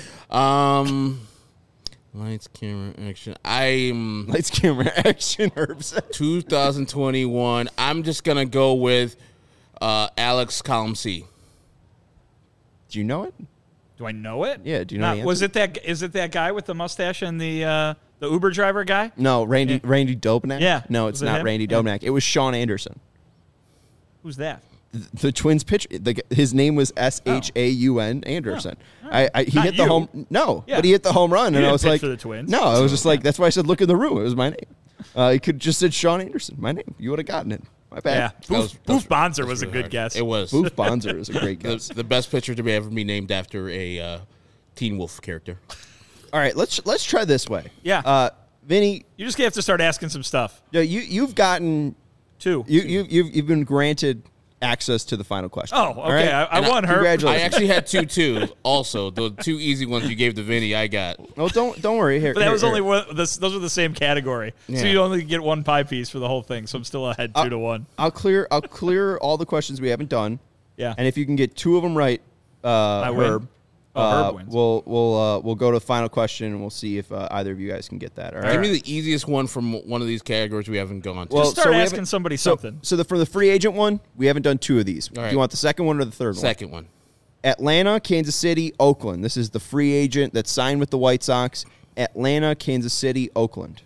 Lights, camera, action. Lights, camera, action, Herbs. 2021. I'm just gonna go with Alex Column C. Do you know it? Do I know it? Yeah, do you know the Was it that? Is it that guy with the mustache and the Uber driver guy? No, Randy Dobnak? Yeah. No, it's Was it not him? Randy Yeah. Dobnak. It was Sean Anderson. Who's that? The Twins pitcher. His name was Shaun Anderson. Oh. He Not hit the you. home. No, Yeah. but he hit the home run, and didn't I was pitch like, for the Twins. No, I was just like, that's why I said, look in the room. It was my name. He could just said Sean Anderson. My name. You would have gotten it. My bad. Yeah. That Boof Bonzer that's was a really good hard. guess. It was. Boof Bonzer is a great guess. the best pitcher to ever be named after a Teen Wolf character. All right, let's try this way. Yeah. Vinny, You just have to start asking some stuff. you've gotten 2. you've been granted access to the final question. Oh, okay. All right? I won her. Congratulations. I actually had 2 too. Also, the 2 easy ones you gave to Vinny, I got. Oh, don't worry. Here, But that here, was here. only one. Those were the same category, so Yeah. you only get one pie piece for the whole thing. So I'm still ahead 2-1. I'll clear all the questions we haven't done. Yeah. And if you can get 2 of them right, win. Herb, Herb wins. We'll go to the final question, and we'll see if either of you guys can get that. All right. Give me the easiest one from one of these categories we haven't gone to. Well, just start asking somebody something. So for the free agent one, we haven't done 2 of these. Right. Do you want the second one or the third one? Second one. Atlanta, Kansas City, Oakland. This is the free agent that signed with the White Sox. Atlanta, Kansas City, Oakland.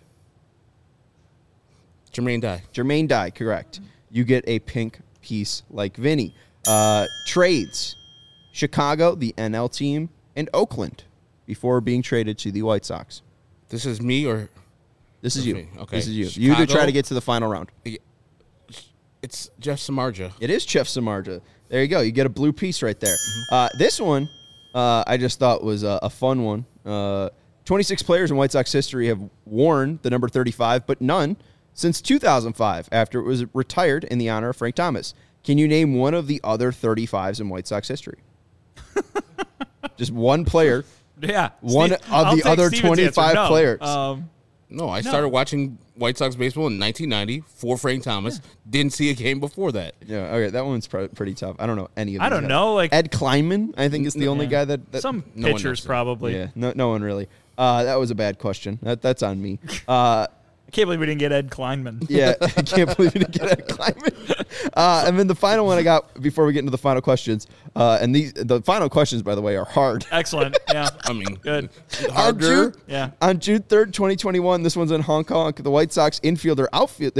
Jermaine Dye, correct. You get a pink piece like Vinny. Trades. Chicago, the NL team, and Oakland before being traded to the White Sox. This is me or? This is you. Me. Okay. This is you. Chicago, you to try to get to the final round. It's Jeff Samardzija. It is Jeff Samardzija. There you go. You get a blue piece right there. This one, I just thought was a fun one. 26 players in White Sox history have worn the number 35, but none since 2005 after it was retired in the honor of Frank Thomas. Can you name one of the other 35s in White Sox history? Just one player. Yeah. One of the other 25 players. No, I started watching White Sox baseball in 1990 for Frank Thomas. Didn't see a game before that. Yeah, okay, that one's pretty tough. I don't know any of them. I don't know. Like Ed Kleinman, I think, is the only guy that some pitchers probably. Yeah, no one really. That was a bad question. That's on me. I can't believe we didn't get Ed Kleinman. Yeah, I can't believe we didn't get Ed Kleinman. And then the final one I got before we get into the final questions, and the final questions, by the way, are hard. Excellent. Yeah. I mean, good. Harder. On June 3rd, 2021, this one's in Hong Kong. The White Sox infielder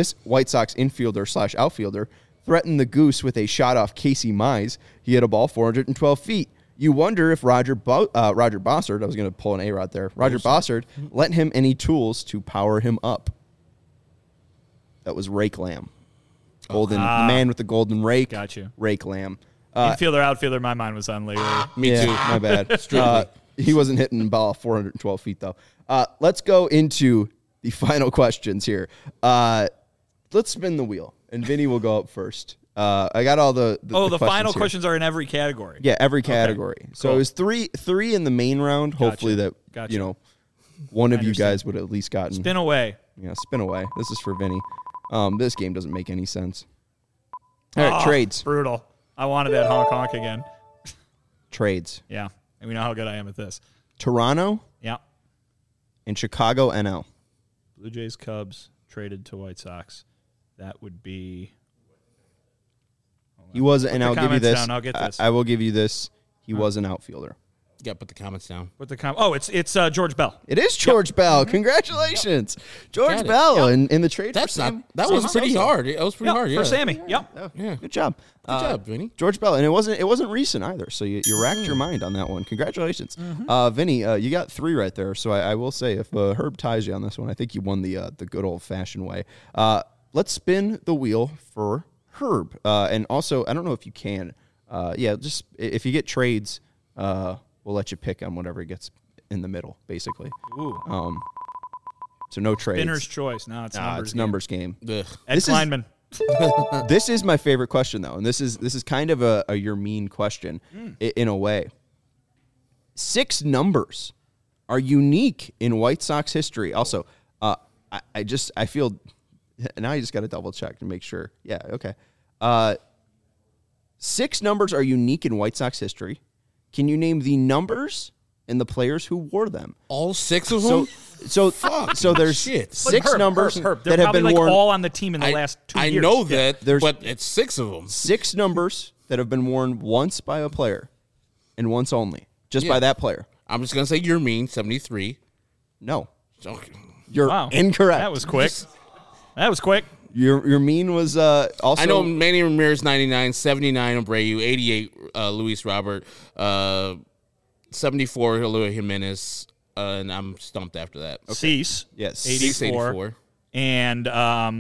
/ outfielder threatened the Goose with a shot off Casey Mize. He hit a ball 412 feet. You wonder if Roger Bossard, I was going to pull an A-Rod there, Roger Bossard lent him any tools to power him up. That was Rake Lamb. The man with the golden rake. Got you. Rake Lamb. Infielder, outfielder, my mind was on Larry. Me too. My bad. He wasn't hitting the ball 412 feet, though. Let's go into the final questions here. Let's spin the wheel, and Vinny will go up first. I got all the final questions are in every category. Yeah, every category. Okay. So It was three in the main round. Gotcha. Hopefully that one of you guys would have at least gotten. Spin away. Yeah, spin away. This is for Vinny. This game doesn't make any sense. All right, trades. Brutal. I wanted that honk again. Trades. Yeah, and we know how good I am at this. Toronto. Yeah. And Chicago NL. Blue Jays, Cubs traded to White Sox. That would be. He was, and I'll give you this. Down. I'll get this. I will give you this. He was an outfielder. Yeah, put the comments down. It's George Bell. It is George Bell. Congratulations, George Bell in the trade. That was pretty hard. That was pretty hard. Yeah, for Sammy. Yep. Yeah. Good job. Good job, Vinny. George Bell, and it wasn't recent either. So you racked your mind on that one. Congratulations, Vinny. You got 3 right there. So I will say, if Herb ties you on this one, I think you won the good old fashioned way. Let's spin the wheel for Herb, and also I don't know if you can. Just if you get trades. We'll let you pick on whatever gets in the middle, basically. Ooh. So no trades. Spinner's choice. No, it's numbers game. Ed Kleinman. This is my favorite question, though, and this is kind of a your mean question in a way. 6 numbers are unique in White Sox history. Also, I feel now I just got to double check to make sure. Yeah, okay. 6 numbers are unique in White Sox history. Can you name the numbers and the players who wore them? All 6 of them? So there's 6 numbers that have been worn all on the team in the last 2 years. I know that, but it's 6 of them. 6 numbers that have been worn once by a player and once only, by that player. I'm just going to say you're mean, 73. No. Okay. You're incorrect. That was quick. Your mean was also. I know Manny Ramirez 99, 79 Abreu, 88 Luis Robert, 74 Eloy Jimenez, and I'm stumped after that. Okay. Cease, yes, 84, and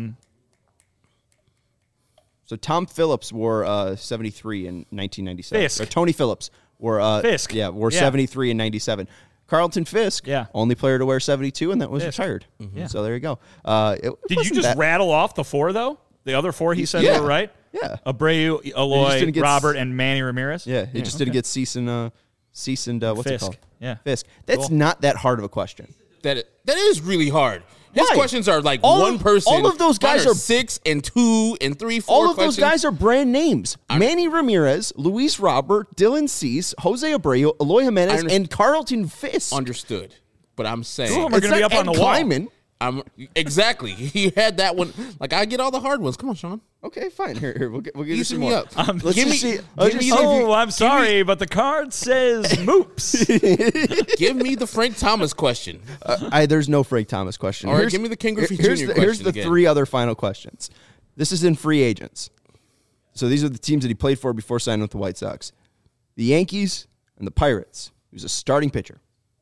so Tom Phillips wore 73 in 1997. Fisk. Or Tony Phillips wore Fisk. Yeah, wore 73 in 97. Carlton Fisk, only player to wear 72, and that was retired. Mm-hmm. Yeah. So there you go. Did you just rattle off the 4, though? The other 4 he said were right? Yeah. Abreu, Eloy, Robert, and Manny Ramirez? Yeah, he just didn't get Cease and what's Fisk. it called? Yeah. Fisk. That's not that hard of a question. That is really hard. His questions are like one person. All of those guys are 6 and 2 and 3, 4. All of those guys are brand names. Manny Ramirez, Luis Robert, Dylan Cease, Jose Abreu, Eloy Jimenez, and Carlton Fisk. Understood. But I'm saying some of them are going to be up on the wall. Kleiman. Exactly. He had that one. Like, I get all the hard ones. Come on, Sean. Okay, fine. Here, we'll give you some me more. Up. I'm sorry, but the card says Moops. Give me the Frank Thomas question. There's no Frank Thomas question. All right, give me the King Griffey Jr. question. Here's the again. 3 other final questions. This is in free agents. So these are the teams that he played for before signing with the White Sox. The Yankees and the Pirates. He was a starting pitcher.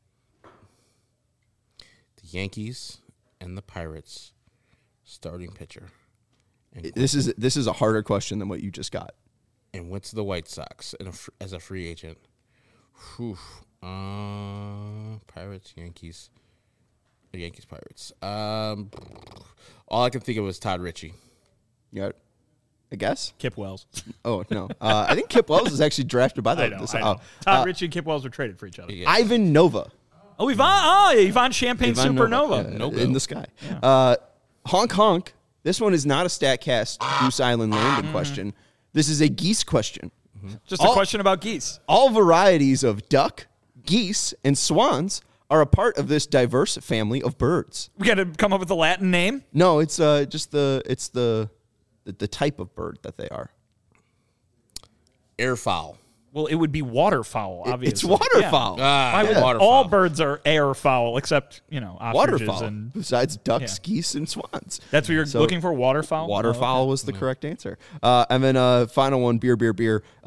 The Yankees and the Pirates starting pitcher. And This is a harder question than what you just got. And went to the White Sox as a free agent. Pirates, Yankees. Yankees, Pirates. All I can think of was Todd Ritchie. You got a guess? Kip Wells. Oh, no. I think Kip Wells is actually drafted by the... I know. Todd Ritchie and Kip Wells were traded for each other. Yeah. Ivan Nova. Oh, Ivan Champagne Supernova. In the sky. Yeah. Honk Honk. This one is not a StatCast Goose Island landing question. This is a geese question. Just a question about geese. All varieties of duck, geese, and swans are a part of this diverse family of birds. We got to come up with a Latin name? No, it's just the type of bird that they are. Airfowl. Well, it would be waterfowl, obviously. It's waterfowl. Yeah. Waterfowl. All birds are airfowl, except, ostriches. Waterfowl, and besides ducks, geese, and swans. That's what you're looking for, waterfowl? Waterfowl was the correct answer. And then final one, beer. In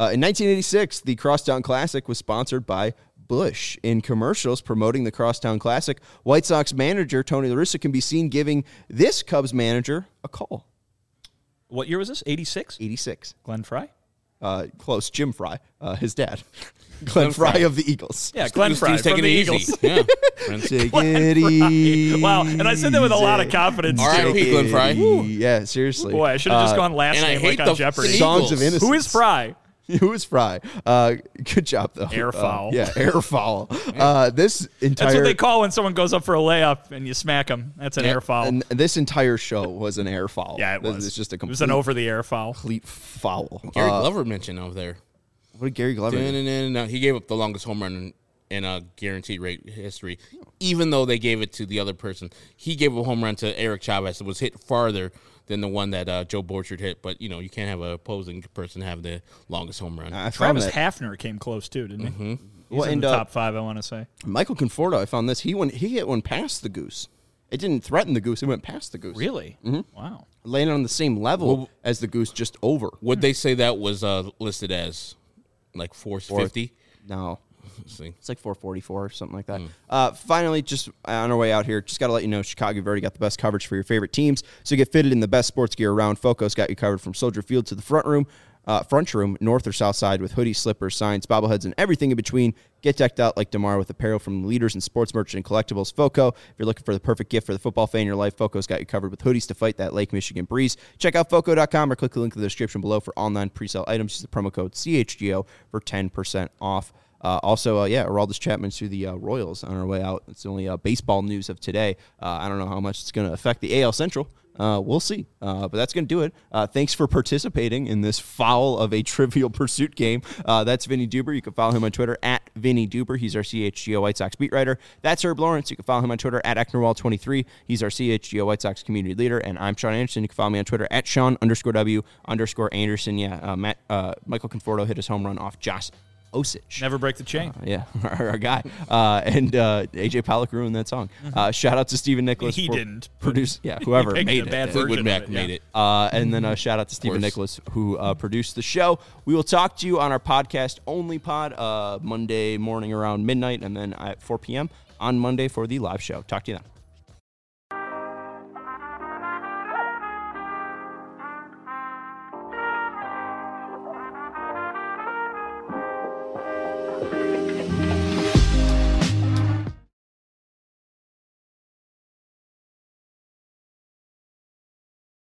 1986, the Crosstown Classic was sponsored by Busch. In commercials promoting the Crosstown Classic, White Sox manager Tony La Russa can be seen giving this Cubs manager a call. What year was this? 86? 86. Glenn Fry? Close. Jim Fry, his dad. Glenn Fry of the Eagles. Yeah, Glenn Fry He's from taking the it Eagles. easy. Yeah. Take it easy. Wow, and I said that with a lot of confidence, too. R.I.P. Glenn Fry. Yeah, seriously. Boy, I should have just gone last and I name hate like on the Jeopardy. Songs of Innocence. Who is Fry? Who is Fry? Good job, though. Airfowl. Airfowl. This entire... That's what they call when someone goes up for a layup and you smack them. That's an airfowl. And this entire show was an airfowl. Yeah, it was. It's just a complete... It was an over-the-air foul. Complete foul. Gary Glover mentioned over there. What did Gary Glover do? No, he gave up the longest home run in a guaranteed rate history, even though they gave it to the other person. He gave a home run to Eric Chavez. It was hit farther than the one that Joe Borchard hit, but you can't have an opposing person have the longest home run. Travis Hafner came close too, didn't he? He's in the top 5, I want to say. Michael Conforto, I found this. He hit one past the goose. It didn't threaten the goose. It went past the goose. Really? Mm-hmm. Wow. Landed on the same level as the goose, just over. Would they say that was listed as like 450? No. See. It's like 444 or something like that. Finally, just on our way out here, just got to let you know, Chicago, you've already got the best coverage for your favorite teams. So get fitted in the best sports gear around. Foco's got you covered from Soldier Field to the front room, north or south side, with hoodies, slippers, signs, bobbleheads, and everything in between. Get decked out like DeMar with apparel from the leaders in sports merchant and collectibles. Foco, if you're looking for the perfect gift for the football fan in your life, Foco's got you covered with hoodies to fight that Lake Michigan breeze. Check out Foco.com or click the link in the description below for online pre-sale items. Use the promo code CHGO for 10% off. Aroldis Chapman's through the Royals on our way out. It's only baseball news of today. I don't know how much it's going to affect the AL Central. We'll see. But that's going to do it. Thanks for participating in this foul of a Trivial Pursuit game. That's Vinny Duber. You can follow him on Twitter at Vinny Duber. He's our CHGO White Sox beat writer. That's Herb Lawrence. You can follow him on Twitter at Ecknerwall23. He's our CHGO White Sox community leader. And I'm Sean Anderson. You can follow me on Twitter at Sean_W_Anderson. Michael Conforto hit his home run off Josh Osich. Never break the chain. Our guy. And AJ Pollock ruined that song. Shout out to Stephen Nicholas. He didn't. Whoever made it. Fleetwood Mac made it. And then shout out to Stephen Nicholas, who produced the show. We will talk to you on our podcast only pod Monday morning around midnight, and then at 4 p.m. on Monday for the live show. Talk to you then.